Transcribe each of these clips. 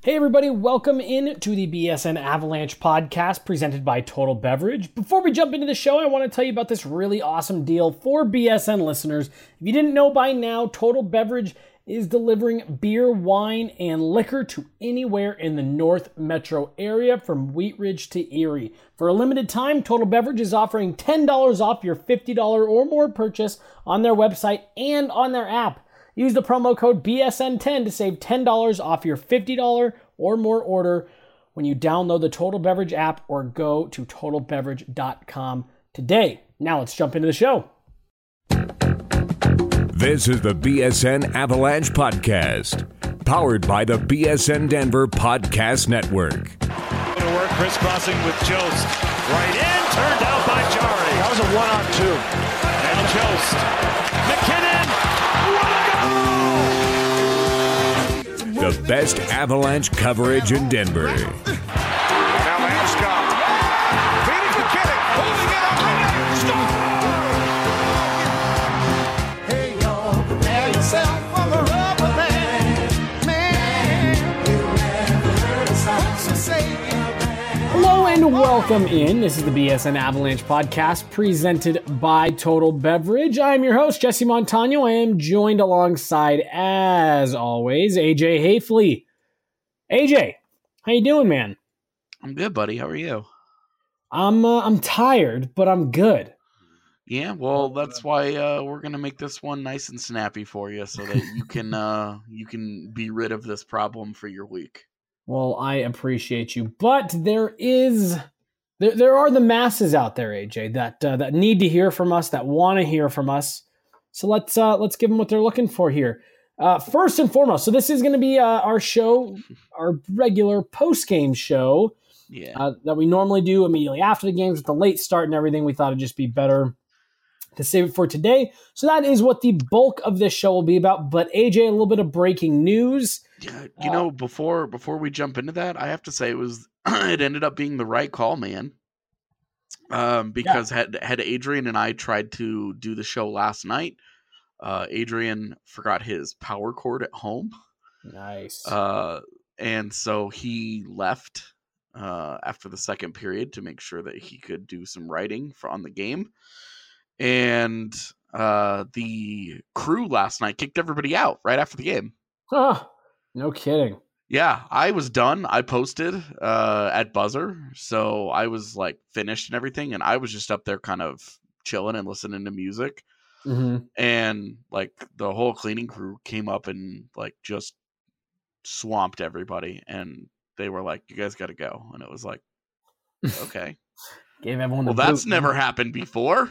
Hey everybody, welcome in to the BSN Avalanche podcast presented by Total Beverage. Before we jump into the show, I want to tell you about this really awesome deal for BSN listeners. If you didn't know by now, Total Beverage is delivering beer, wine, and liquor to anywhere in the North Metro area from Wheat Ridge to Erie. For a limited time, Total Beverage is offering $10 off your $50 or more purchase on their website and on their app. Use the promo code BSN10 to save $10 off your $50 or more order when you download the Total Beverage app or go to totalbeverage.com today. Now let's jump into the show. This is the BSN Avalanche Podcast, powered by the BSN Denver Podcast Network. To work, crisscrossing with Jost. Right in, turned out by Jari. That was a 1-on-2. Now Jost. McKinnon. The best Avalanche coverage in Denver. Now Landeskog. Feeding McKinnon. Holding it up. Hey, y'all, prepare yourself for the rubber man. You never heard a song, so say it. Hello and welcome in. This is the BSN Avalanche podcast presented by Total Beverage. I'm your host, Jesse Montano. I am joined alongside, as always, AJ Hafley. AJ, how you doing, man? I'm good, buddy. How are you? I'm tired, but I'm good. Yeah, well, that's why we're gonna make this one nice and snappy for you, so that you can be rid of this problem for your week. Well, I appreciate you, but there are the masses out there, AJ, that need to hear from us, that want to hear from us. So let's give them what they're looking for here. First and foremost, so this is going to be our show, our regular post-game show that we normally do immediately after the games with the late start and everything. We thought it'd just be better to save it for today. So that is what the bulk of this show will be about. But AJ, a little bit of breaking news. Yeah, before we jump into that, I have to say it ended up being the right call, man. Because had Adrian and I tried to do the show last night, Adrian forgot his power cord at home. Nice. And so he left after the second period to make sure that he could do some writing on the game. And the crew last night kicked everybody out right after the game. Huh. No kidding. Yeah, I was done. I posted at buzzer, so I was like finished and everything, and I was just up there kind of chilling and listening to music. Mm-hmm. And like the whole cleaning crew came up and like just swamped everybody, and they were like, "You guys got to go," and it was like, okay. Gave everyone well, that's never happened before.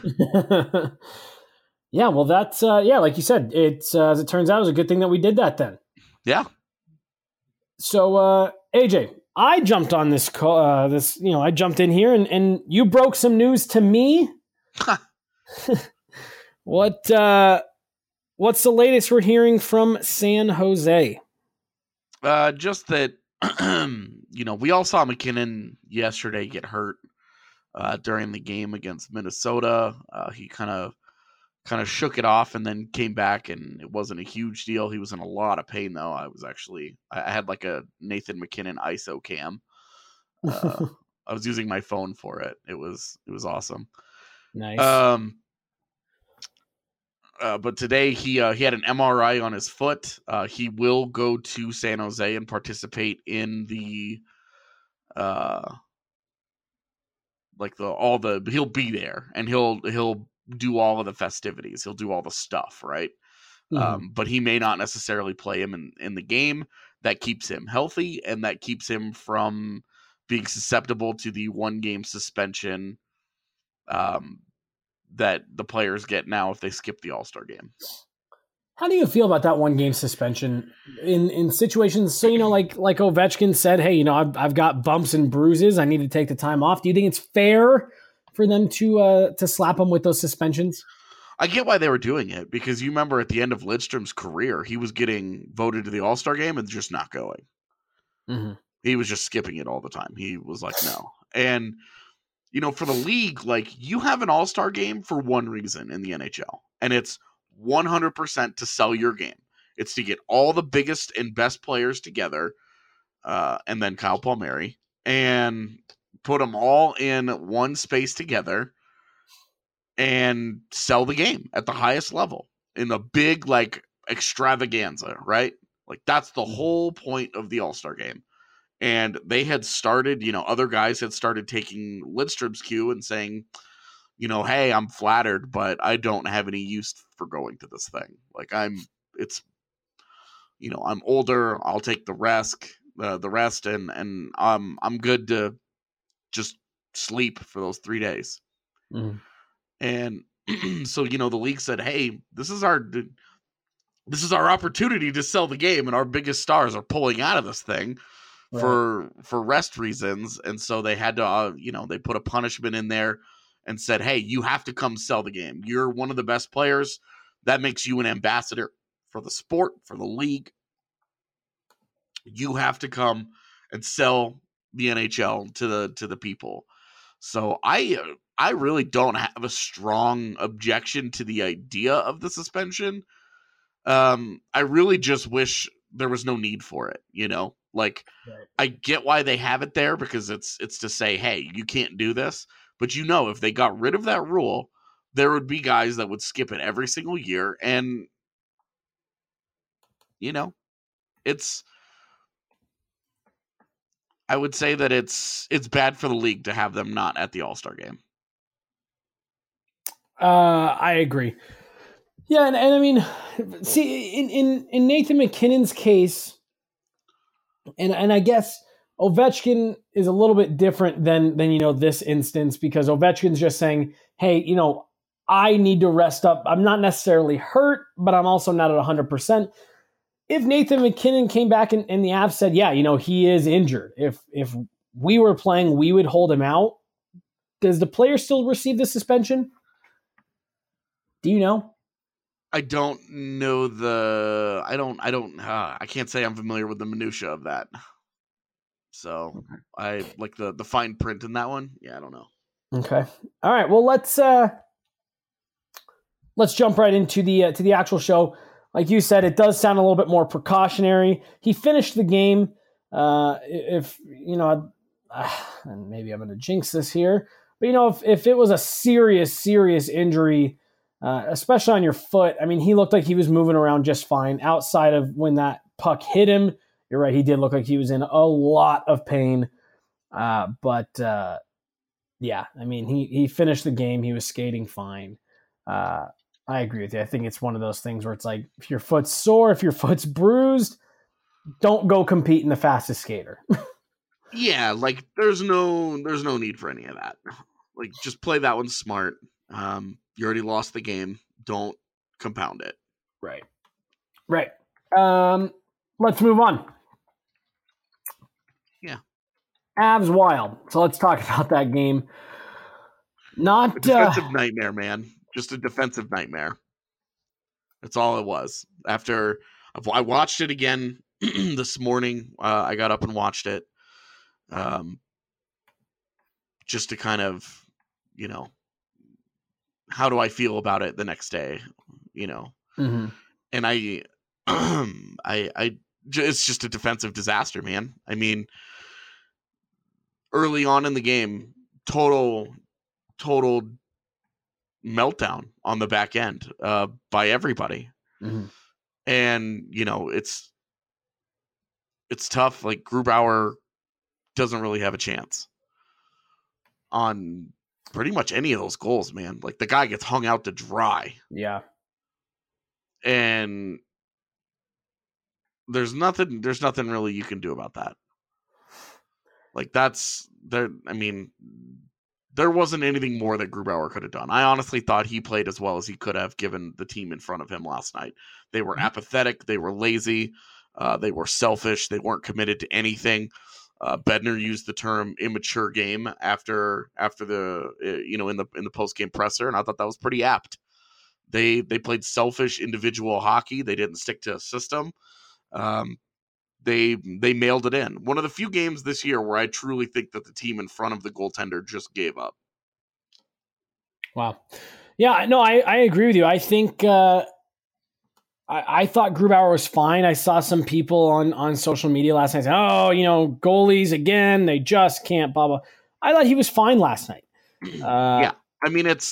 Yeah, well, that's like you said, it's as it turns out, it was a good thing that we did that then. Yeah. So, AJ, I jumped on this call. I jumped in here and you broke some news to me. What's the latest we're hearing from San Jose? Just that, we all saw McKinnon yesterday get hurt during the game against Minnesota. He kind of shook it off and then came back, and it wasn't a huge deal. He was in a lot of pain, though. I had like a Nathan McKinnon ISO cam. I was using my phone for it. It was awesome. Nice. But today he had an MRI on his foot. He will go to San Jose and participate in the he'll be there, and he'll do all of the festivities. He'll do all the stuff, right? Mm-hmm. But he may not necessarily play him in the game. That keeps him healthy, and that keeps him from being susceptible to the 1-game suspension that the players get now if they skip the All-Star game. How do you feel about that 1-game suspension in situations? So, like Ovechkin said, hey, I've got bumps and bruises. I need to take the time off. Do you think it's fair for them to slap him with those suspensions? I get why they were doing it, because you remember at the end of Lidstrom's career, he was getting voted to the All-Star game and just not going. Mm-hmm. He was just skipping it all the time. He was like, no. And, for the league, like, you have an All-Star game for one reason in the NHL, and it's 100% to sell your game. It's to get all the biggest and best players together and then Kyle Palmieri, and put them all in one space together and sell the game at the highest level in a big, like, extravaganza, right? Like, that's the whole point of the All-Star game. And they had started, other guys had started taking Lidstrom's cue and saying, hey, I'm flattered, but I don't have any use for going to this thing. Like, I'm older. I'll take the rest, and I'm good to just sleep for those 3 days. Mm. And so, the league said, hey, this is our opportunity to sell the game, and our biggest stars are pulling out of this thing for rest reasons. And so they had to, they put a punishment in there and said, hey, you have to come sell the game. You're one of the best players. That makes you an ambassador for the sport, for the league. You have to come and sell the NHL to the people. So I really don't have a strong objection to the idea of the suspension. I really just wish there was no need for it, Like, right. I get why they have it there, because it's to say, hey, you can't do this. But if they got rid of that rule, there would be guys that would skip it every single year. And, I would say that it's bad for the league to have them not at the All-Star game. I agree. Yeah, and I mean, see, in Nathan MacKinnon's case, and I guess Ovechkin is a little bit different than this instance, because Ovechkin's just saying, hey, I need to rest up. I'm not necessarily hurt, but I'm also not at 100%. If Nathan MacKinnon came back and the Avs said, yeah, he is injured. If we were playing, we would hold him out. Does the player still receive the suspension? Do you know? I don't know I can't say I'm familiar with the minutia of that. So I like the fine print in that one. Yeah, I don't know. Okay. All right. Well, let's jump right into the actual show. Like you said, it does sound a little bit more precautionary. He finished the game. And maybe I'm going to jinx this here, but if it was a serious injury, especially on your foot, I mean, he looked like he was moving around just fine outside of when that puck hit him. You're right. He did look like he was in a lot of pain. But yeah, I mean, he finished the game. He was skating fine. I agree with you. I think it's one of those things where it's like, if your foot's sore, if your foot's bruised, don't go compete in the fastest skater. Yeah, like there's no need for any of that. Like, just play that one smart. You already lost the game. Don't compound it. Right. Let's move on. Yeah. Avs Wild. So let's talk about that game. Not a defensive nightmare, man. Just a defensive nightmare. That's all it was. After I watched it again this morning, I got up and watched it, just to kind of, how do I feel about it the next day, Mm-hmm. And it's just a defensive disaster, man. I mean, early on in the game, total meltdown on the back end by everybody. Mm-hmm. And it's tough. Like, Grubauer doesn't really have a chance on pretty much any of those goals, man. Like, the guy gets hung out to dry. Yeah. And there's nothing really you can do about that. Like, that's there. I mean, there wasn't anything more that Grubauer could have done. I honestly thought he played as well as he could have given the team in front of him last night. They were apathetic. They were lazy. They were selfish. They weren't committed to anything. Bednar used the term immature game after the in the post game presser, and I thought that was pretty apt. They played selfish individual hockey. They didn't stick to a system. They mailed it in. One of the few games this year where I truly think that the team in front of the goaltender just gave up. Wow. Yeah, no, I agree with you. I think I thought Grubauer was fine. I saw some people on social media last night saying, goalies again, they just can't, blah, blah. I thought he was fine last night. Yeah. I mean, you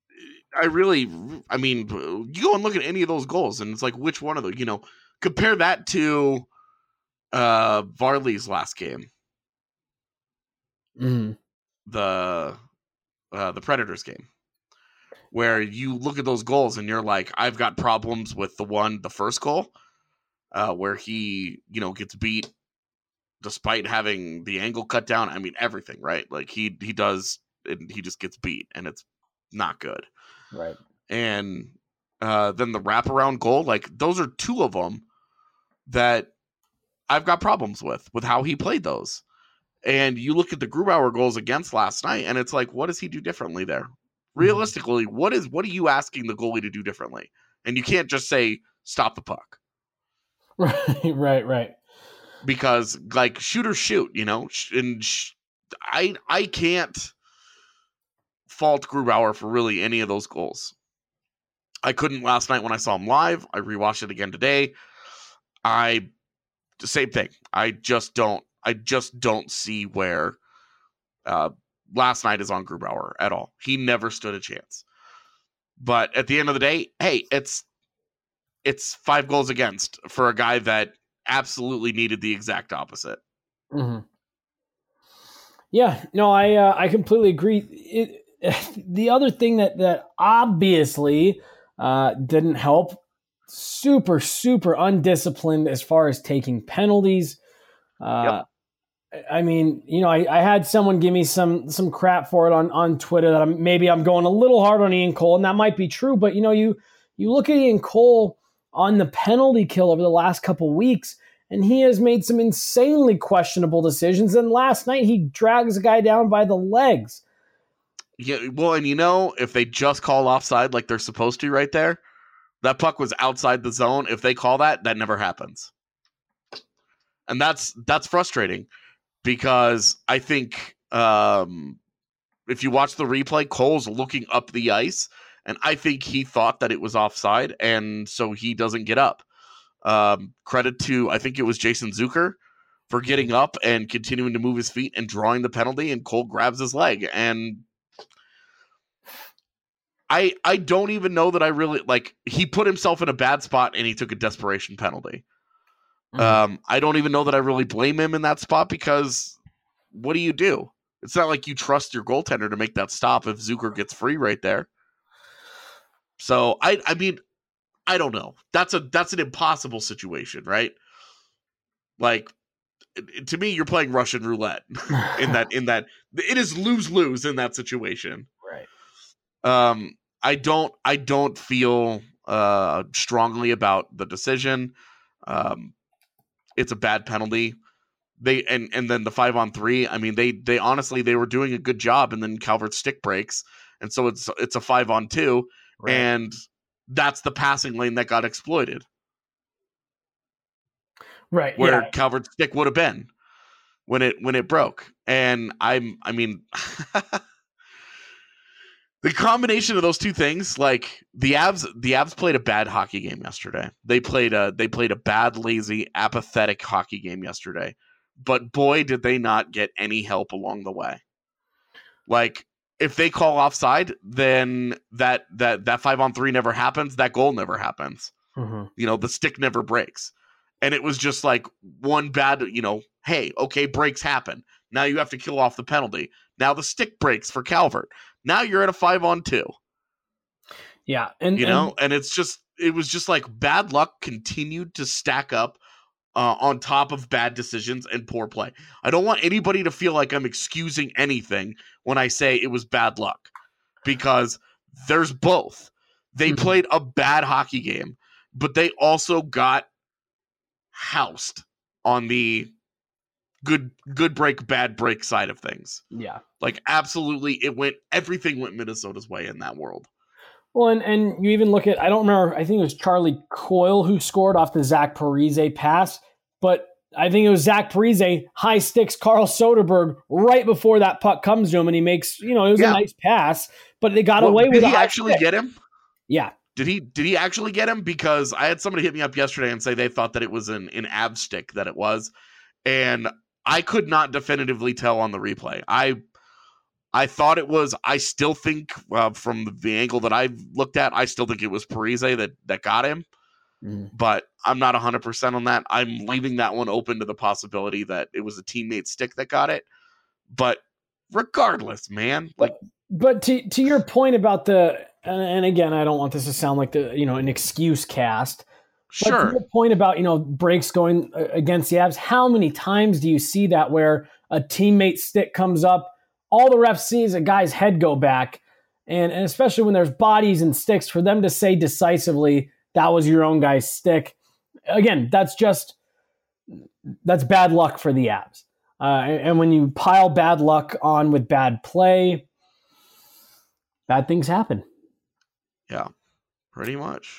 go and look at any of those goals, and it's like, which one of those, compare that to Varley's last game. Mm-hmm. The Predators game, where you look at those goals and you're like, I've got problems with the first goal, where he, gets beat despite having the angle cut down. I mean, everything, right? Like he does, and he just gets beat, and it's not good. Right. And then the wraparound goal, like those are two of them that I've got problems with how he played those. And you look at the Grubauer goals against last night, and it's like, what does he do differently there? Realistically, what are you asking the goalie to do differently? And you can't just say, stop the puck. Right. Because, like, shoot or shoot, and I can't fault Grubauer for really any of those goals. I couldn't last night when I saw him live. I rewatched it again today. Same thing. I just don't see where last night is on Grubauer at all. He never stood a chance. But at the end of the day, hey, it's 5 goals against for a guy that absolutely needed the exact opposite. Mm-hmm. Yeah, no, I completely agree. The other thing that obviously didn't help, super, super undisciplined as far as taking penalties. Yep. I mean, I had someone give me some crap for it on Twitter that I'm going a little hard on Ian Cole, and that might be true. But you look at Ian Cole on the penalty kill over the last couple weeks, and he has made some insanely questionable decisions. And last night he drags a guy down by the legs. Yeah, well, and if they just call offside like they're supposed to right there, that puck was outside the zone. If they call that never happens. And that's frustrating. Because I think if you watch the replay, Cole's looking up the ice, and I think he thought that it was offside, and so he doesn't get up. Credit to, I think it was Jason Zucker for getting up and continuing to move his feet and drawing the penalty, and Cole grabs his leg. And I don't even know that I really, he put himself in a bad spot, and he took a desperation penalty. I don't even know that I really blame him in that spot, because what do? It's not like you trust your goaltender to make that stop if Zucker gets free right there. So I mean, I don't know. That's an impossible situation, right? Like, to me, you're playing Russian roulette in that it is lose-lose in that situation. Right. I don't feel strongly about the decision. It's a bad penalty. And then the 5-on-3. I mean, they honestly, they were doing a good job, and then Calvert's stick breaks, and so it's a 5-on-2, right. And that's the passing lane that got exploited. Right, where Calvert's stick would have been when it broke. And I mean, the combination of those two things, like the Avs played a bad hockey game yesterday. They played a bad, lazy, apathetic hockey game yesterday. But boy, did they not get any help along the way. Like, if they call offside, then that 5-on-3 never happens. That goal never happens. Mm-hmm. The stick never breaks. And it was just like one bad, hey, okay, breaks happen. Now you have to kill off the penalty. Now the stick breaks for Calvert. Now you're at a 5-on-2. Yeah. And it was just like bad luck continued to stack up on top of bad decisions and poor play. I don't want anybody to feel like I'm excusing anything when I say it was bad luck, because there's both. They played a bad hockey game, but they also got housed on the good break, bad break side of things. Yeah. Like, absolutely, everything went Minnesota's way in that world. Well, and you even look at, I don't remember, I think it was Charlie Coyle who scored off the Zach Parise pass, but I think it was Zach Parise, high sticks Carl Soderberg right before that puck comes to him, and he makes, it was a nice pass, but they got away with it. Did he actually get him? Yeah. Did he actually get him? Because I had somebody hit me up yesterday and say they thought that it was an ab stick that it was, and I could not definitively tell on the replay. I thought it was. I still think from the angle that I've looked at, I still think it was Parise that got him. But I'm not 100% on that. I'm leaving that one open to the possibility that it was a teammate stick that got it. But regardless, man, like. But to your point about and again, I don't want this to sound like an excuse cast. Sure. But to your point about breaks going against the Avs, how many times do you see that where a teammate stick comes up, all the refs see is a guy's head go back, and especially when there's bodies and sticks, for them to say decisively that was your own guy's stick. Again, that's bad luck for the Avs. And when you pile bad luck on with bad play, bad things happen. Yeah, pretty much.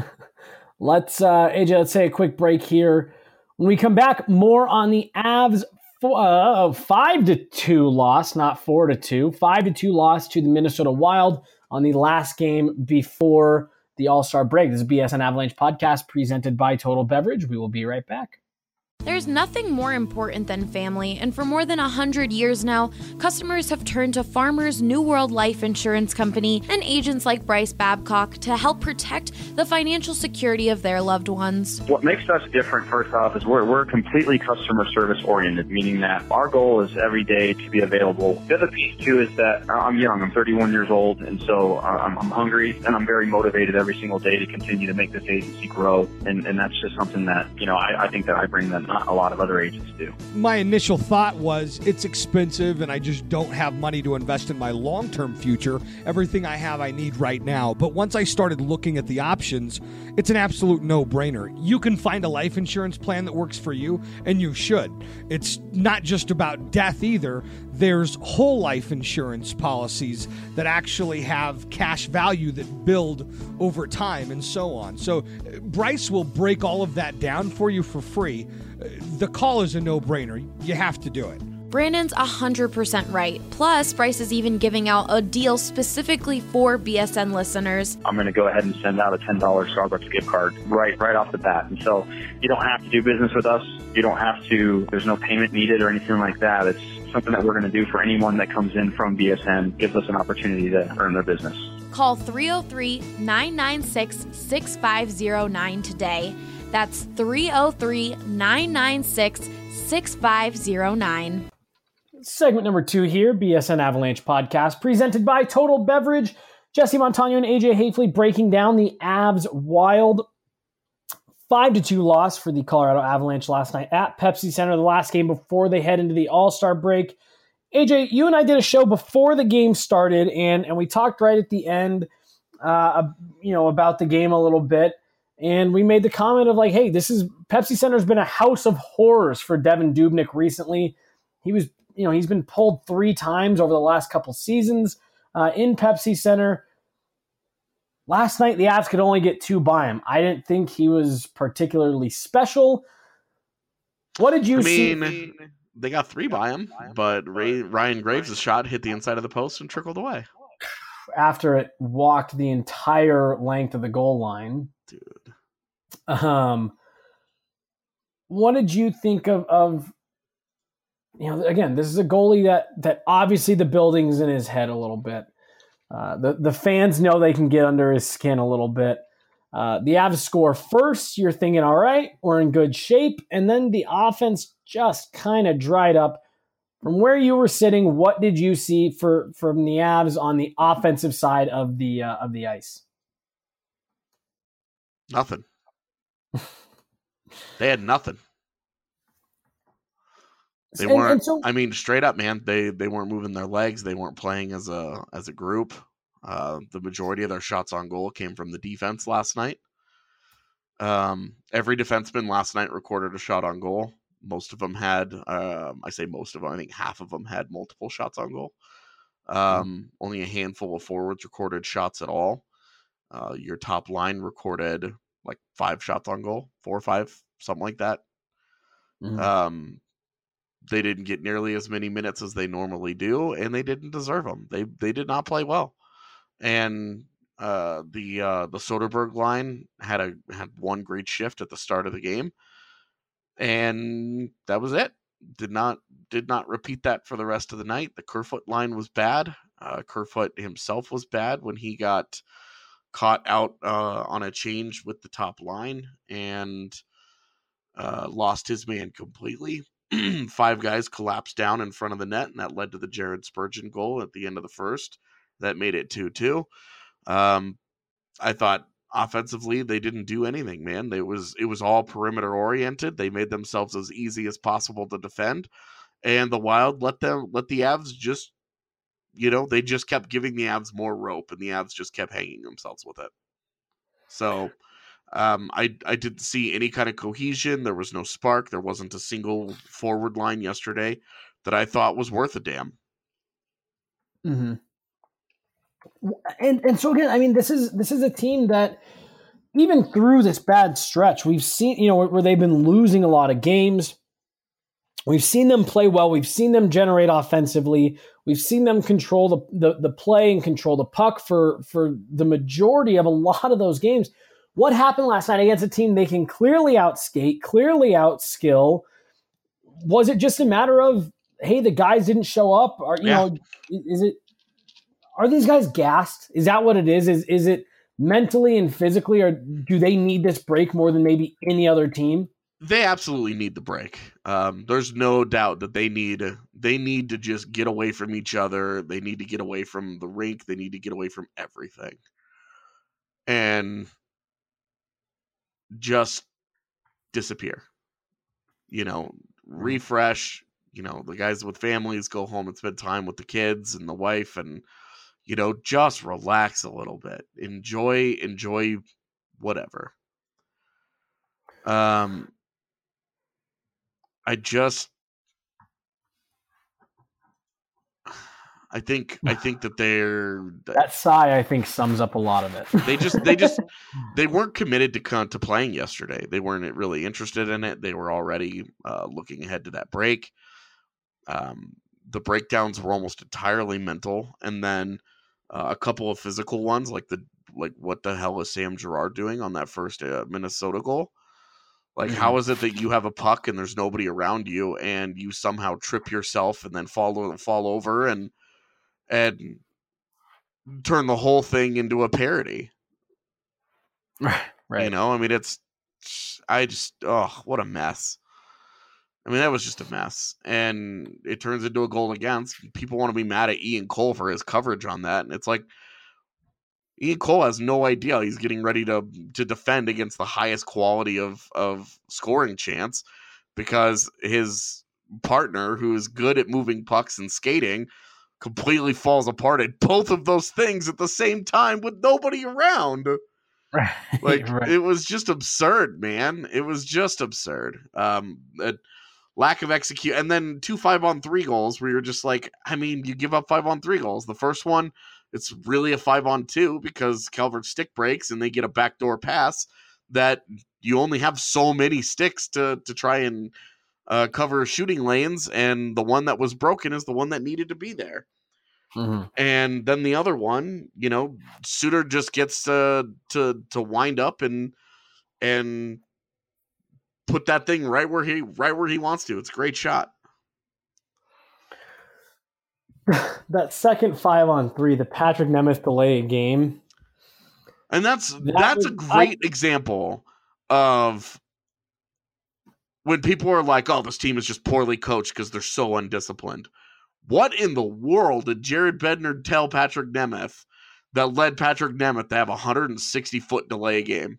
AJ, let's take a quick break here. When we come back, more on the Avs 5-2 loss, not 4-2, 5-2 loss to the Minnesota Wild on the last game before the All-Star break. This is BSN Avalanche podcast presented by Total Beverage. We will be right back. There's nothing more important than family, and for more than 100 years now, customers have turned to Farmers New World Life Insurance Company and agents like Bryce Babcock to help protect the financial security of their loved ones. What makes us different, first off, is we're completely customer service oriented, meaning that our goal is every day to be available. The other piece, too, is that I'm young. I'm 31 years old, and so I'm hungry, and I'm very motivated every single day to continue to make this agency grow, and that's just something that, I think that I bring that not a lot of other agents do. My initial thought was it's expensive and I just don't have money to invest in my long-term future. Everything I have I need right now. But once I started looking at the options, it's an absolute no-brainer. You can find a life insurance plan that works for you, and you should. It's not just about death either. There's whole life insurance policies that actually have cash value that build over time and so on. So Bryce will break all of that down for you for free. The call is a no-brainer. You have to do it. Brandon's 100% right. Plus, Bryce is even giving out a deal specifically for BSN listeners. I'm going to go ahead and send out a $10 Starbucks gift card right off the bat. And so you don't have to do business with us. You don't have to, there's no payment needed or anything like that. It's something that we're going to do for anyone that comes in from BSN, gives us an opportunity to earn their business. Call 303-996-6509 today. That's 303-996-6509. Segment number 2 here, BSN Avalanche podcast, presented by Total Beverage. Jesse Montano and AJ Hafley breaking down the Avs Wild 5-2 loss for the Colorado Avalanche last night at Pepsi Center, the last game before they head into the All-Star break. AJ, you and I did a show before the game started, and we talked right at the end, about the game a little bit. And we made the comment of hey, Pepsi Center's been a house of horrors for Devan Dubnyk recently. He's been pulled 3 times over the last couple seasons in Pepsi Center. Last night, the Avs could only get 2 by him. I didn't think he was particularly special. What did you see? They got 3 by him, but Ryan Graves' shot hit the inside of the post and trickled away. After it walked the entire length of the goal line. Dude. What did you think of again, this is a goalie that obviously the building's in his head a little bit. The fans know they can get under his skin a little bit. The Avs score first, you're thinking, all right, we're in good shape. And then the offense just kind of dried up. From where you were sitting, what did you see from the Avs on the offensive side of the ice? Nothing. They had nothing. They weren't. Straight up, man. They weren't moving their legs. They weren't playing as a group. The majority of their shots on goal came from the defense last night. Every defenseman last night recorded a shot on goal. Most of them had. I say most of them. I think half of them had multiple shots on goal. Only a handful of forwards recorded shots at all. Your top line recorded 5 shots on goal, 4 or 5, something like that. Mm-hmm. They didn't get nearly as many minutes as they normally do, and they didn't deserve them. They did not play well. And The Soderberg line had one great shift at the start of the game, and that was it. Did not repeat that for the rest of the night. The Kerfoot line was bad. Kerfoot himself was bad when he got caught out on a change with the top line and lost his man completely. 5 guys collapsed down in front of the net, and that led to the Jared Spurgeon goal at the end of the first. That made it 2-2. I thought offensively they didn't do anything, man. It was all perimeter oriented. They made themselves as easy as possible to defend, and the Wild let the Avs just, they just kept giving the Avs more rope, and the Avs just kept hanging themselves with it. So I didn't see any kind of cohesion. There was no spark. There wasn't a single forward line yesterday that I thought was worth a damn. Mm-hmm. And so again, I mean, this is a team that even through this bad stretch, we've seen, where they've been losing a lot of games. We've seen them play well. We've seen them generate offensively. We've seen them control the play and control the puck for the majority of a lot of those games. What happened last night against a team they can clearly outskate, clearly outskill? Was it just a matter of, hey, the guys didn't show up? Or are these guys gassed? Is that what it is? Is it mentally and physically, or do they need this break more than maybe any other team? They absolutely need the break. There's no doubt that they need to just get away from each other. They need to get away from the rink. They need to get away from everything. And just disappear. Refresh. The guys with families go home and spend time with the kids and the wife, and just relax a little bit. Enjoy whatever. I think that that sigh, I think, sums up a lot of it. they weren't committed to playing yesterday. They weren't really interested in it. They were already looking ahead to that break. The breakdowns were almost entirely mental, and then a couple of physical ones, like what the hell is Sam Girard doing on that first Minnesota goal? How is it that you have a puck and there's nobody around you, and you somehow trip yourself and then fall over and turn the whole thing into a parody? Right. I mean, what a mess. I mean, that was just a mess, and it turns into a goal against. People want to be mad at Ian Cole for his coverage on that, and it's like, Ian Cole has no idea he's getting ready to defend against the highest quality of scoring chance, because his partner, who is good at moving pucks and skating, completely falls apart at both of those things at the same time with nobody around. Right. It was just absurd, man. It was just absurd. Lack of execute, and then 2 5-on-3 goals where you're just like, I mean, you give up 5-on-3 goals. The first one, it's really a 5-on-2 because Calvert's stick breaks and they get a backdoor pass that you only have so many sticks to try and cover shooting lanes, and the one that was broken is the one that needed to be there. Mm-hmm. And then the other one, Suter just gets to wind up and put that thing right where he wants to. It's a great shot. That second 5-on-3, the Patrick Nemeth delay game. And that's a great example of when people are like, oh, this team is just poorly coached because they're so undisciplined. What in the world did Jared Bednar tell Patrick Nemeth that led Patrick Nemeth to have a 160-foot delay game?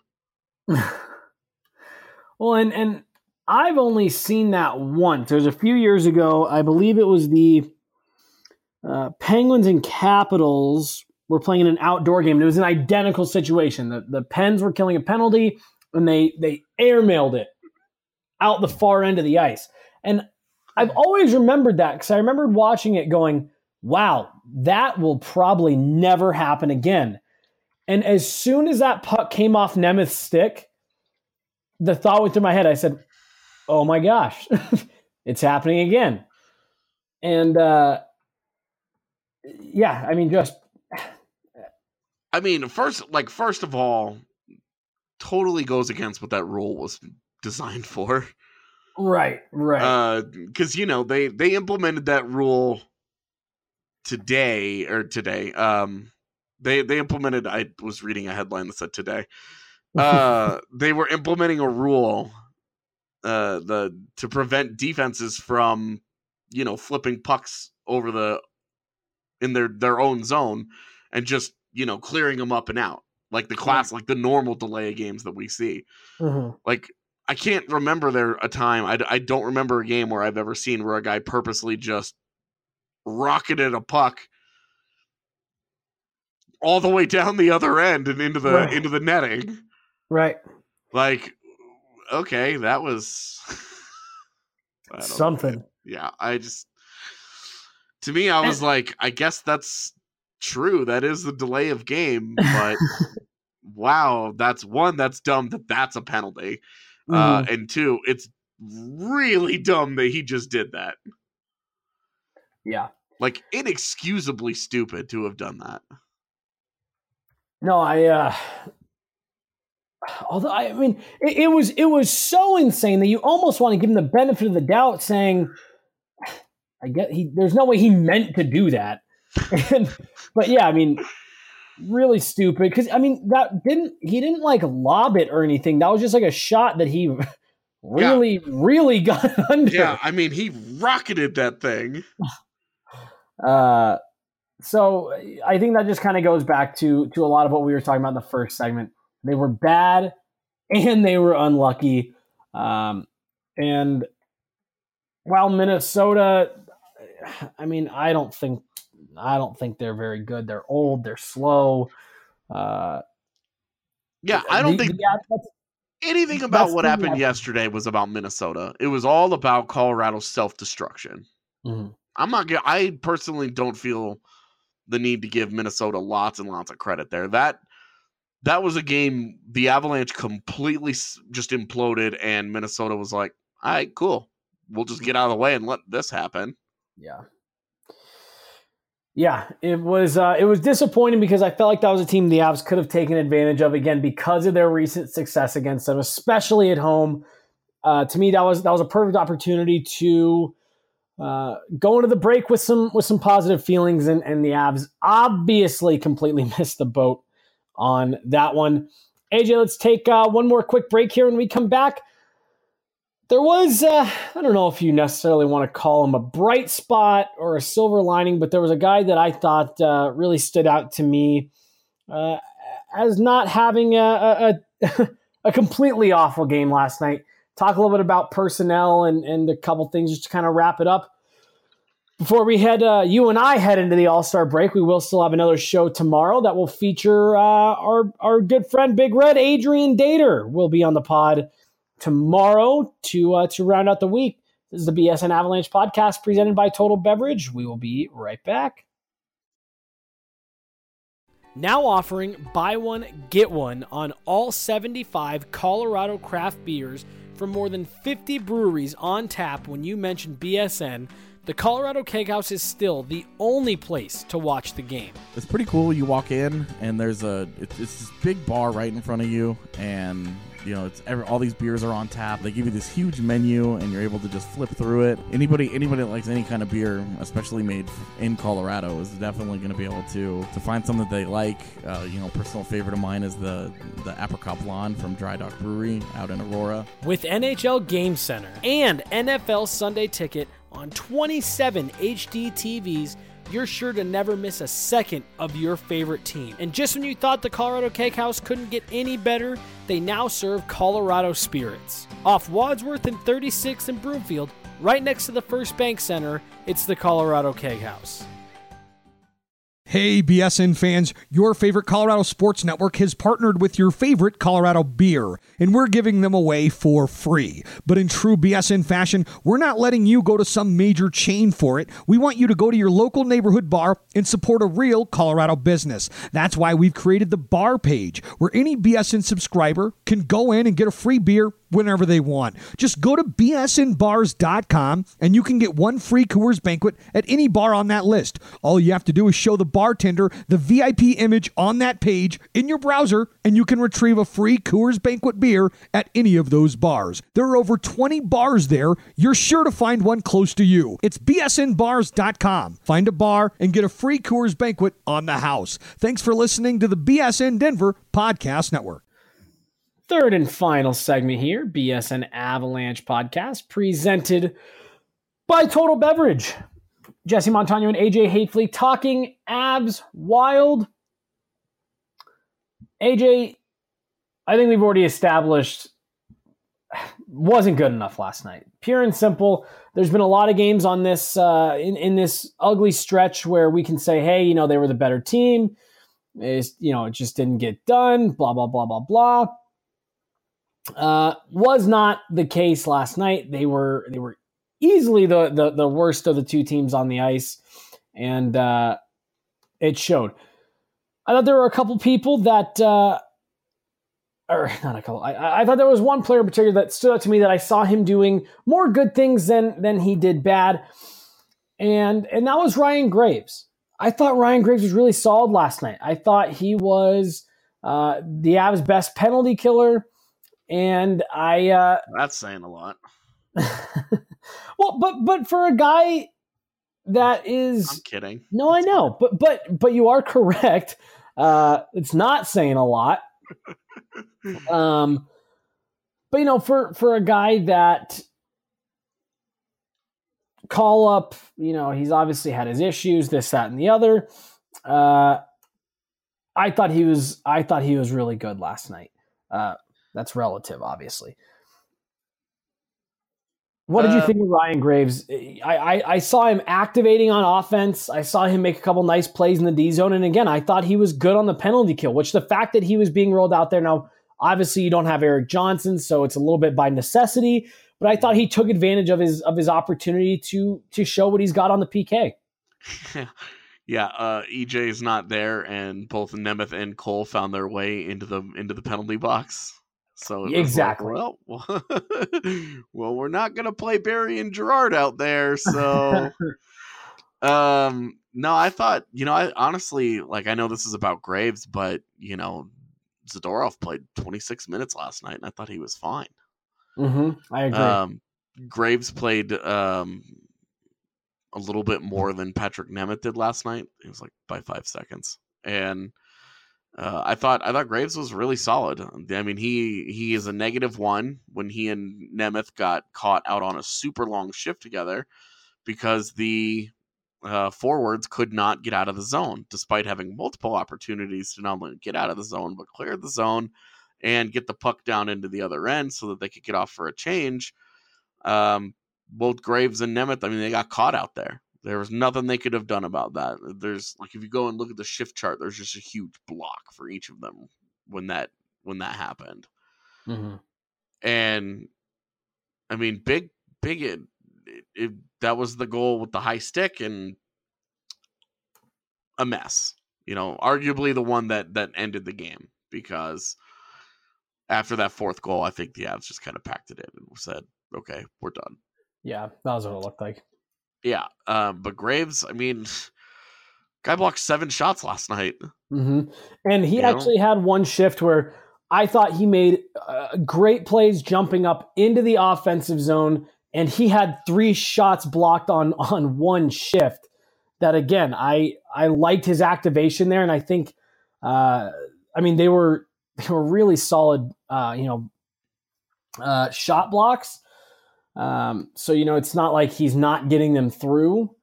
Well, and I've only seen that once. It was a few years ago. I believe it was the Penguins and Capitals were playing in an outdoor game. It was an identical situation. The Pens were killing a penalty, and they airmailed it out the far end of the ice. And I've always remembered that because I remembered watching it going, wow, that will probably never happen again. And as soon as that puck came off Nemeth's stick, the thought went through my head. I said, oh my gosh, it's happening again. And yeah, I mean, just I mean, first of all, totally goes against what that rule was designed for. Right. Because they implemented that rule today. They implemented. I was reading a headline that said today. They were implementing a rule, to prevent defenses from, flipping pucks over in their own zone and just clearing them up and out like the normal delay of games that we see. Mm-hmm. Like, I can't remember a time. I don't remember a game where I've ever seen where a guy purposely just rocketed a puck all the way down the other end and into the netting. Right. Like, okay, that was something. Yeah, to me, I was like, I guess that's true. That is the delay of game, but wow, that's dumb that's a penalty. Mm-hmm. And two, it's really dumb that he just did that. Yeah. Like, inexcusably stupid to have done that. No, although I mean, it was so insane that you almost want to give him the benefit of the doubt, saying, "I get there's no way he meant to do that." But yeah, I mean, really stupid because I mean he didn't like lob it or anything. That was just like a shot that he really got under. Yeah, I mean, he rocketed that thing. So I think that just kind of goes back to a lot of what we were talking about in the first segment. They were bad and they were unlucky. And while Minnesota, I mean, I don't think they're very good. They're old. They're slow. I don't think anything about what happened yesterday was about Minnesota. It was all about Colorado's self-destruction. Mm-hmm. I personally don't feel the need to give Minnesota lots and lots of credit there. That was a game the Avalanche completely just imploded, and Minnesota was like, all right, cool. We'll just get out of the way and let this happen. Yeah, it was disappointing because I felt like that was a team the Avs could have taken advantage of, again, because of their recent success against them, especially at home. To me, that was a perfect opportunity to go into the break with some positive feelings, and the Avs obviously completely missed the boat on that one. AJ, let's take one more quick break here. When we come back, there was, I don't know if you necessarily want to call him a bright spot or a silver lining, but there was a guy that I thought really stood out to me as not having a completely awful game last night. Talk a little bit about personnel and a couple things just to kind of wrap it up. Before we you and I head into the All-Star break, we will still have another show tomorrow that will feature our good friend Big Red, Adrian Dater, will be on the pod tomorrow to round out the week. This is the BSN Avalanche podcast presented by Total Beverage. We will be right back. Now offering buy one, get one on all 75 Colorado craft beers from more than 50 breweries on tap when you mention BSN. The Colorado Kegghouse is still the only place to watch the game. It's pretty cool. You walk in and there's it's this big bar right in front of you, and all these beers are on tap. They give you this huge menu, and you're able to just flip through it. Anybody that likes any kind of beer, especially made in Colorado, is definitely going to be able to find something that they like. Personal favorite of mine is the Apricot Blonde from Dry Dock Brewery out in Aurora. With NHL Game Center and NFL Sunday Ticket on 27 HD TVs, you're sure to never miss a second of your favorite team. And just when you thought the Colorado Kegghouse couldn't get any better, they now serve Colorado Spirits. Off Wadsworth and 36th and Broomfield, right next to the First Bank Center, it's the Colorado Kegghouse. Hey, BSN fans, your favorite Colorado Sports Network has partnered with your favorite Colorado beer, and we're giving them away for free. But in true BSN fashion, we're not letting you go to some major chain for it. We want you to go to your local neighborhood bar and support a real Colorado business. That's why we've created the bar page, where any BSN subscriber can go in and get a free beer whenever they want. Just go to bsnbars.com and you can get one free Coors Banquet at any bar on that list. All you have to do is show the bartender the VIP image on that page in your browser, and you can retrieve a free Coors Banquet beer at any of those bars. There are over 20 bars there. You're sure to find one close to you. It's bsnbars.com. Find a bar and get a free Coors Banquet on the house. Thanks for listening to the BSN Denver Podcast Network. Third and final segment here, BSN Avalanche Podcast, presented by Total Beverage. Jesse Montano and AJ Hatefley talking Avs Wild. AJ, I think we've already established wasn't good enough last night. Pure and simple. There's been a lot of games on this in this ugly stretch where we can say, hey, they were the better team. It just didn't get done. Blah blah blah blah blah. Was not the case last night. They were easily the worst of the two teams on the ice, and it showed. I thought there were a couple people that, or not a couple. I thought there was one player in particular that stood out to me that I saw him doing more good things than he did bad, and that was Ryan Graves. I thought Ryan Graves was really solid last night. I thought he was the Avs' best penalty killer. And that's saying a lot. Well, but for a guy that is, I'm kidding. No, I know, but you are correct. It's not saying a lot. But for a guy that call up, he's obviously had his issues, this, that, and the other. I thought he was really good last night. That's relative, obviously. What did you think of Ryan Graves? I saw him activating on offense. I saw him make a couple nice plays in the D zone. And again, I thought he was good on the penalty kill, which the fact that he was being rolled out there now, obviously you don't have Erik Johnson, so it's a little bit by necessity. But I thought he took advantage of his opportunity to show what he's got on the PK. Yeah, EJ is not there, and both Nemeth and Cole found their way into the penalty box. So exactly. Like, well, we're not gonna play Barry and Gerard out there. So, no, I thought, I honestly, I know this is about Graves, but Zadorov played 26 minutes last night, and I thought he was fine. Mm-hmm. I agree. Graves played a little bit more than Patrick Nemeth did last night. It was by 5 seconds, and I thought Graves was really solid. I mean, he is a -1 when he and Nemeth got caught out on a super long shift together because the forwards could not get out of the zone, despite having multiple opportunities to not only get out of the zone, but clear the zone and get the puck down into the other end so that they could get off for a change. Both Graves and Nemeth, I mean, they got caught out there. There was nothing they could have done about that. There's if you go and look at the shift chart, there's just a huge block for each of them when that happened. Mm-hmm. And I mean, big that was the goal with the high stick and a mess. Arguably the one that ended the game, because after that fourth goal, I think the Avs just kind of packed it in and said, "Okay, we're done." Yeah, that was what it looked like. Yeah, but Graves, I mean, guy blocked 7 shots last night. Mm-hmm. And he actually had one shift where I thought he made great plays jumping up into the offensive zone, and he had 3 shots blocked on one shift. That, again, I liked his activation there, and I think, they were really solid, shot blocks. So, it's not like he's not getting them through.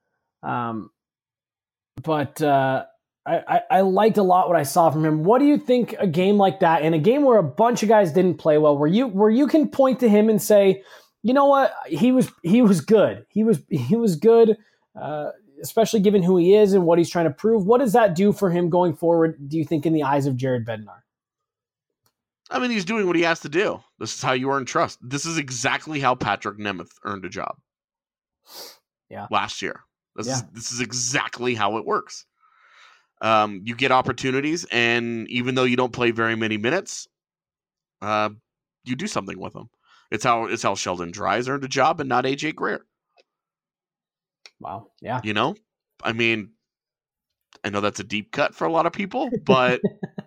But I liked a lot what I saw from him. What do you think a game like that, in a game where a bunch of guys didn't play well, where you can point to him and say, you know what, he was good. He was good, especially given who he is and what he's trying to prove. What does that do for him going forward, do you think, in the eyes of Jared Bednar? I mean, he's doing what he has to do. This is how you earn trust. This is exactly how Patrick Nemeth earned a job. Yeah. Last year. This is exactly how it works. You get opportunities, and even though you don't play very many minutes, you do something with them. It's how Sheldon Dries earned a job and not AJ Greer. Wow. Yeah. You know, I mean, I know that's a deep cut for a lot of people, but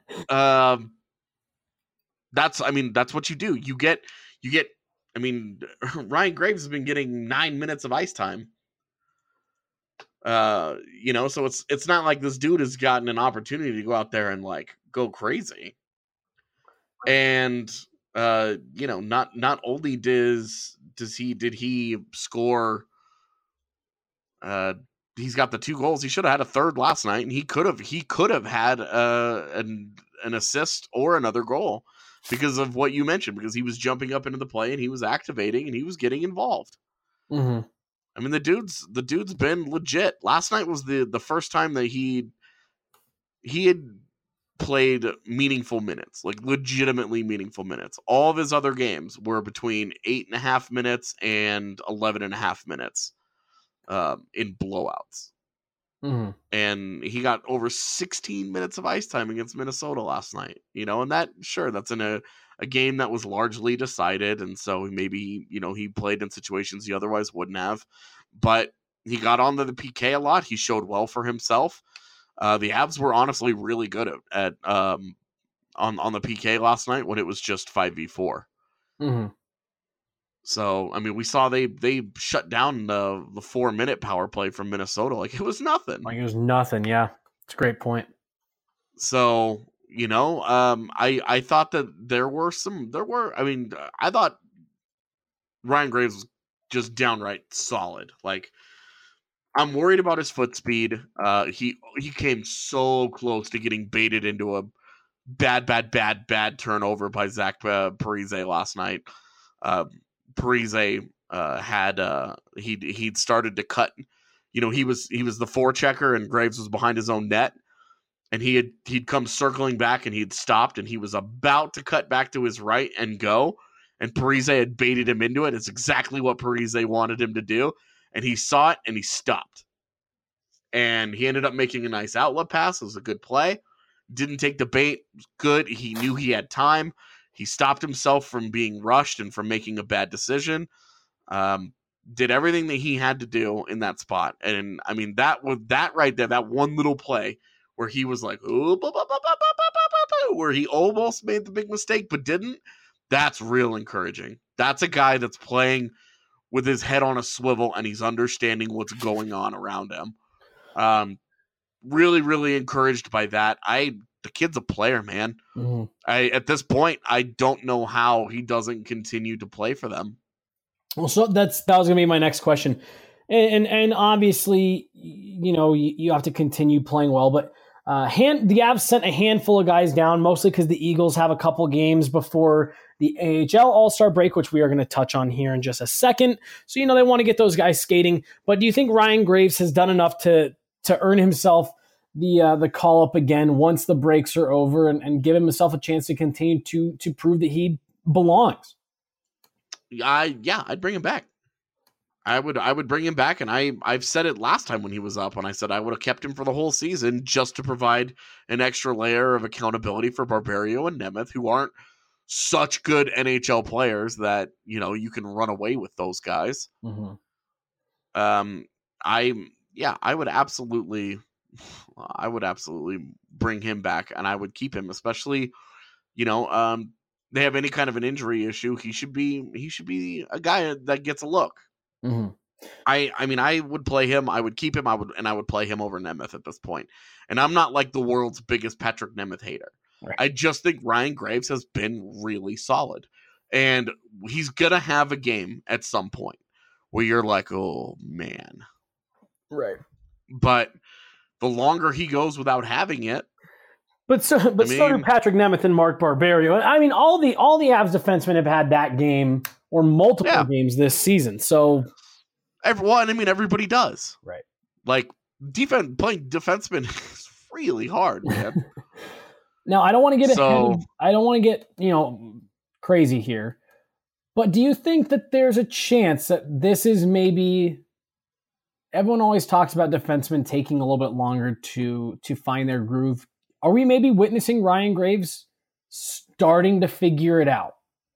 that's what you do. You get. I mean, Ryan Graves has been getting 9 minutes of ice time. You know, so it's not like this dude has gotten an opportunity to go out there and like go crazy. And you know, not only did he score, he's got the 2 goals. He should have had a third last night, and he could have had an assist or another goal because of what you mentioned, because he was jumping up into the play and he was activating and he was getting involved. Mm-hmm. I mean, the dude's been legit. Last night was the first time that he had played meaningful minutes, like legitimately meaningful minutes. All of his other games were between 8.5 minutes and 11.5 minutes in blowouts. Mm-hmm. And he got over 16 minutes of ice time against Minnesota last night, you know, and that's in a game that was largely decided. And so maybe, you know, he played in situations he otherwise wouldn't have, but he got onto the PK a lot. He showed well for himself. The Avs were honestly really good at on the PK last night when it was just 5v4. Mm-hmm. So, I mean, we saw they shut down the 4-minute power play from Minnesota. Like, it was nothing. Like, it was nothing. Yeah. It's a great point. So, you know, I thought that I thought Ryan Graves was just downright solid. Like, I'm worried about his foot speed. He came so close to getting baited into a bad turnover by Zach Parise last night. Parise he'd started to cut. You know, he was the forechecker and Graves was behind his own net, and he'd come circling back and he'd stopped and he was about to cut back to his right and go, and Parise had baited him into it. It's exactly what Parise wanted him to do, and he saw it and he stopped. And he ended up making a nice outlet pass. It was a good play. Didn't take the bait. Good. He knew he had time. He stopped himself from being rushed and from making a bad decision. Did everything that he had to do in that spot. And I mean, that right there, that one little play where he was like, where he almost made the big mistake but didn't, that's real encouraging. That's a guy that's playing with his head on a swivel and he's understanding what's going on around him. Really, really encouraged by that. The kid's a player, man. Mm-hmm. At this point, I don't know how he doesn't continue to play for them. Well, so that was going to be my next question. And obviously, you know, you have to continue playing well, but the Avs sent a handful of guys down, mostly because the Eagles have a couple games before the AHL All-Star break, which we are going to touch on here in just a second. So, you know, they want to get those guys skating. But do you think Ryan Graves has done enough to earn himself the call up again once the breaks are over and give himself a chance to continue to prove that he belongs? I'd bring him back. I would bring him back, and I've said it last time when he was up, and I said I would have kept him for the whole season just to provide an extra layer of accountability for Barberio and Nemeth, who aren't such good NHL players that, you know, you can run away with those guys. Mm-hmm. I would absolutely bring him back, and I would keep him, especially, you know, they have any kind of an injury issue. He should be a guy that gets a look. Mm-hmm. I mean, I would play him. I would keep him. I would play him over Nemeth at this point. And I'm not like the world's biggest Patrick Nemeth hater. Right. I just think Ryan Graves has been really solid, and he's gonna have a game at some point where you're like, oh man, right. But the longer he goes without having it, so do Patrick Nemeth and Mark Barberio. I mean, all the Avs defensemen have had that game or multiple games this season. So everybody does. Right. Like playing defenseman is really hard, man. Now, I don't want to get ahead. I don't want to get, you know, crazy here. But do you think that there's a chance that this is maybe, everyone always talks about defensemen taking a little bit longer to find their groove. Are we maybe witnessing Ryan Graves starting to figure it out?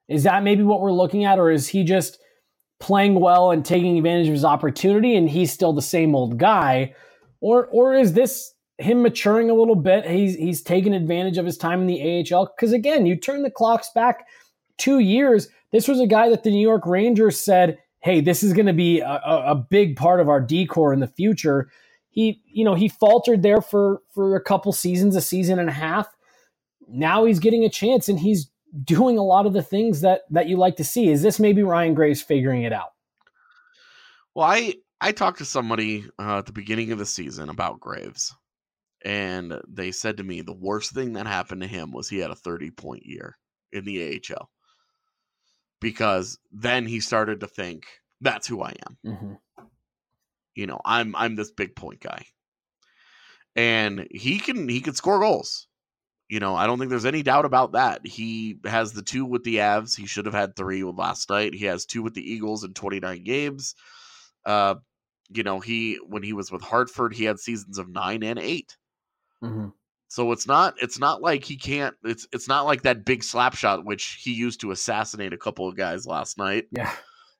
Is that maybe what we're looking at, or is he just playing well and taking advantage of his opportunity and he's still the same old guy? Or is this him maturing a little bit? He's taking advantage of his time in the AHL. Because again, you turn the clocks back 2 years. This was a guy that the New York Rangers said, hey, this is going to be a big part of our decor in the future. He faltered there for a couple seasons, a season and a half. Now he's getting a chance and he's doing a lot of the things that you like to see. Is this maybe Ryan Graves figuring it out? Well, I talked to somebody at the beginning of the season about Graves, and they said to me the worst thing that happened to him was he had a 30-point year in the AHL, because then he started to think, that's who I am. Mm-hmm. I'm this big point guy, and he can score goals. I don't think there's any doubt about that. He has the 2 with the Avs. He should have had 3 last night. He has 2 with the Eagles in 29 games. When he was with Hartford, he had seasons of 9 and 8. Mm-hmm. So it's not like he can't. It's not like that big slap shot which he used to assassinate a couple of guys last night. Yeah.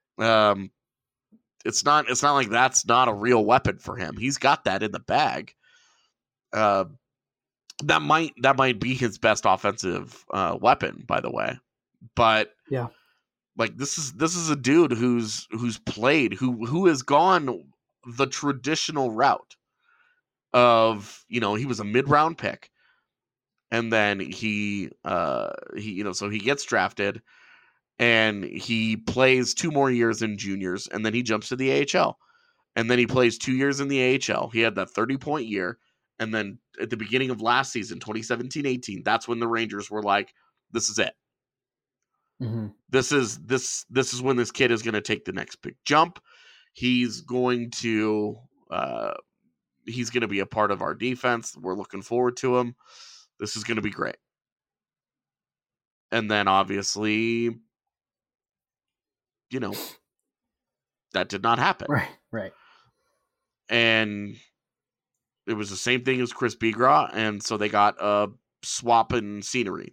It's not like that's not a real weapon for him. He's got that in the bag. That might be his best offensive weapon, by the way. But yeah, like this is a dude who's played, who has gone the traditional route of, he was a mid-round pick, and then he gets drafted and he plays 2 more years in juniors, and then he jumps to the AHL, and then he plays 2 years in the AHL. He had that 30-point year. And then at the beginning of last season, 2017-18, that's when the Rangers were like, this is it. Mm-hmm. This is when this kid is going to take the next big jump. He's going to be a part of our defense. We're looking forward to him. This is going to be great. And then obviously, that did not happen. Right. And it was the same thing as Chris Bigras, and so they got a swap in scenery.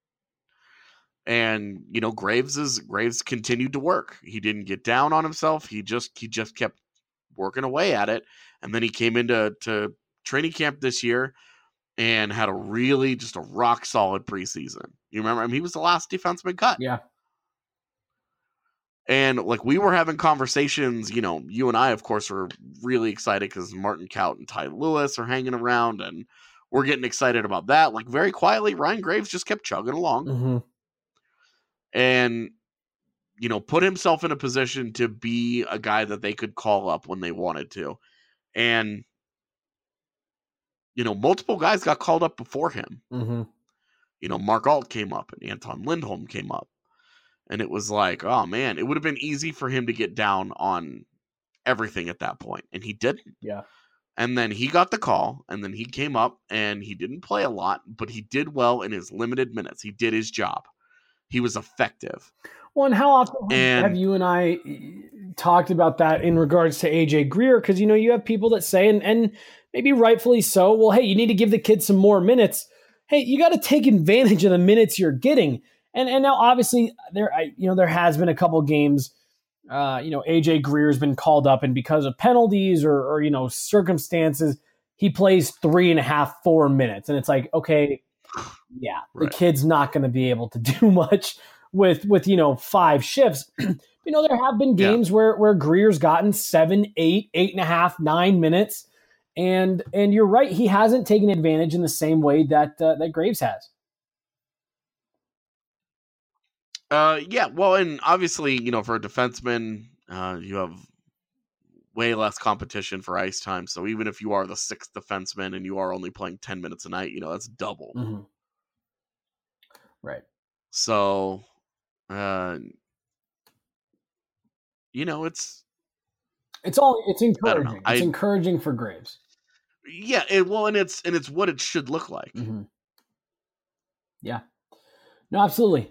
And Graves continued to work. He didn't get down on himself. He just kept working away at it. And then he came into training camp this year and had just a rock solid preseason. You remember? He was the last defenseman cut. Yeah. And like we were having conversations, you and I, of course, were really excited because Martin Kaut and Ty Lewis are hanging around, and we're getting excited about that. Like very quietly, Ryan Graves just kept chugging along, mm-hmm. and put himself in a position to be a guy that they could call up when they wanted to. And multiple guys got called up before him. Mm-hmm. Mark Alt came up and Anton Lindholm came up. And it was like, oh man, it would have been easy for him to get down on everything at that point. And he didn't. Yeah. And then he got the call, and then he came up and he didn't play a lot, but he did well in his limited minutes. He did his job. He was effective. Well, and how often have you and I talked about that in regards to AJ Greer? Because, you have people that say, and maybe rightfully so, well, hey, you need to give the kid some more minutes. Hey, you got to take advantage of the minutes you're getting. And now, obviously, there has been a couple games, AJ Greer's been called up, and because of penalties or circumstances, he plays 3.5, 4 minutes. And it's like, okay, yeah, right. The kid's not going to be able to do much with 5 shifts. There have been games where Greer's gotten 7, 8, 8.5, 9 minutes. And you're right, he hasn't taken advantage in the same way that Graves has. Well, and obviously, for a defenseman, you have way less competition for ice time. So even if you are the 6th defenseman and you are only playing 10 minutes a night, that's double. Mm-hmm. Right. So, it's encouraging. It's encouraging for Graves. Yeah. And it's what it should look like. Mm-hmm. Yeah. No, absolutely.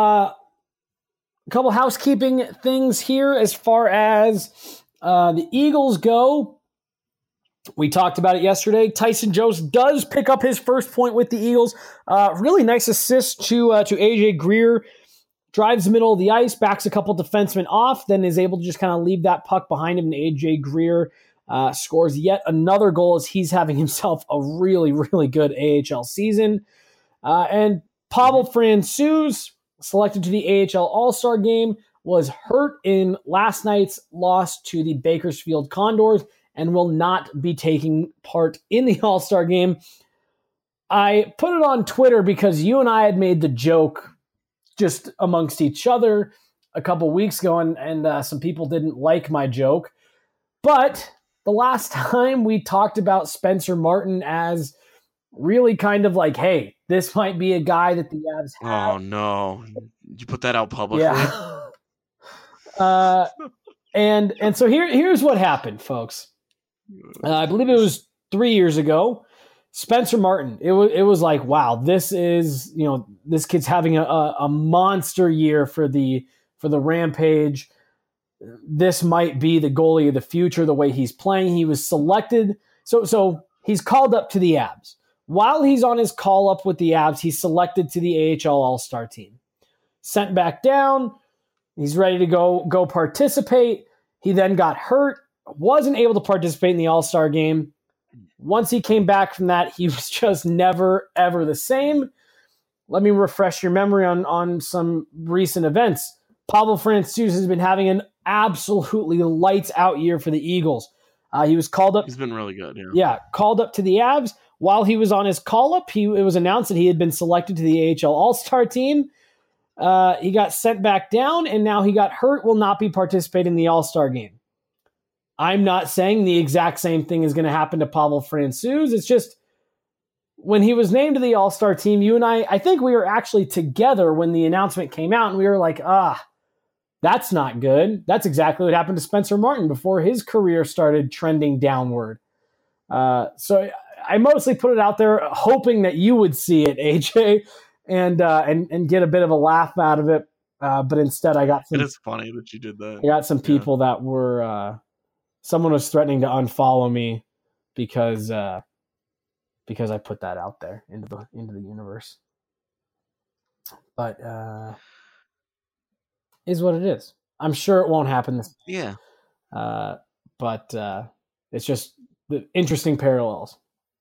A couple housekeeping things here as far as the Eagles go. We talked about it yesterday. Tyson Jost does pick up his first point with the Eagles. Really nice assist to AJ Greer. drives the middle of the ice, backs a couple defensemen off, then is able to just kind of leave that puck behind him. And AJ Greer scores yet another goal as he's having himself a really, really good AHL season. And Pavel Francouz, selected to the AHL All-Star Game, was hurt in last night's loss to the Bakersfield Condors and will not be taking part in the All-Star Game. I put it on Twitter because you and I had made the joke just amongst each other a couple weeks ago, and some people didn't like my joke. But the last time we talked about Spencer Martin as really kind of like, hey, this might be a guy that the Avs have. Oh, no. Did you put that out publicly? Yeah. And so here's what happened, folks. I believe it was 3 years ago. Spencer Martin. It was like, wow, this is, this kid's having a monster year for the Rampage. This might be the goalie of the future, the way he's playing. He was selected. So he's called up to the Avs. While he's on his call up with the Avs, he's selected to the AHL All-Star team. Sent back down. He's ready to go participate. He then got hurt, wasn't able to participate in the All-Star game. Once he came back from that, he was just never, ever the same. Let me refresh your memory on some recent events. Pavel Francouz has been having an absolutely lights-out year for the Eagles. He was called up. He's been really good, yeah. Yeah, called up to the Avs. While he was on his call-up, it was announced that he had been selected to the AHL All-Star team. He got sent back down, and now he got hurt, will not be participating in the All-Star game. I'm not saying the exact same thing is going to happen to Pavel Francouz. It's just when he was named to the All-Star team, you and I think we were actually together when the announcement came out, and we were like, that's not good. That's exactly what happened to Spencer Martin before his career started trending downward. So I mostly put it out there hoping that you would see it, AJ, and get a bit of a laugh out of it. But instead I got some... It is funny that you did that. I got some people that were... someone was threatening to unfollow me because I put that out there into the universe. But is what it is. I'm sure it won't happen this time. Yeah. But it's just the interesting parallels.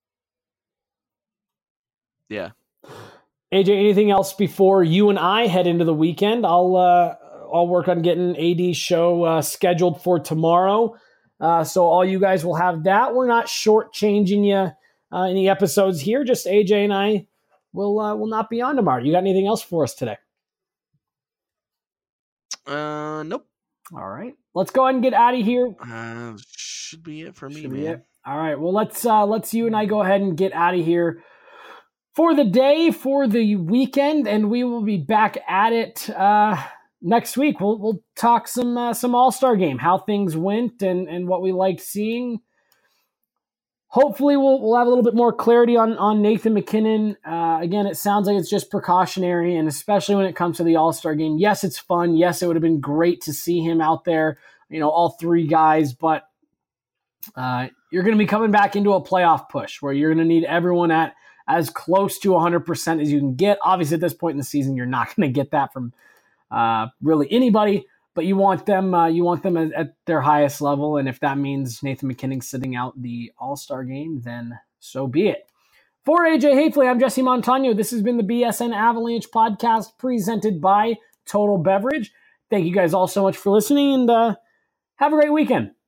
Yeah. AJ, anything else before you and I head into the weekend? I'll work on getting AD's show scheduled for tomorrow. So all you guys will have that. We're not shortchanging you any episodes here. Just AJ and I will not be on tomorrow. You got anything else for us today? Nope. All right. Let's go ahead and get out of here. Should be it for me, Should man. be it. All right. Well, let's you and I go ahead and get out of here for the day, for the weekend, and we will be back at it next week. We'll talk some All-Star game, how things went and what we liked seeing. Hopefully we'll have a little bit more clarity on Nathan MacKinnon. Again, it sounds like it's just precautionary, and especially when it comes to the All-Star game. Yes, it's fun. Yes, it would have been great to see him out there, all three guys, but you're going to be coming back into a playoff push where you're going to need everyone at as close to 100% as you can get. Obviously, at this point in the season, you're not going to get that from really anybody, but you want them at their highest level. And if that means Nathan MacKinnon sitting out the All-Star game, then so be it. For AJ Hafley, I'm Jesse Montano. This has been the BSN Avalanche podcast presented by Total Beverage. Thank you guys all so much for listening, and have a great weekend.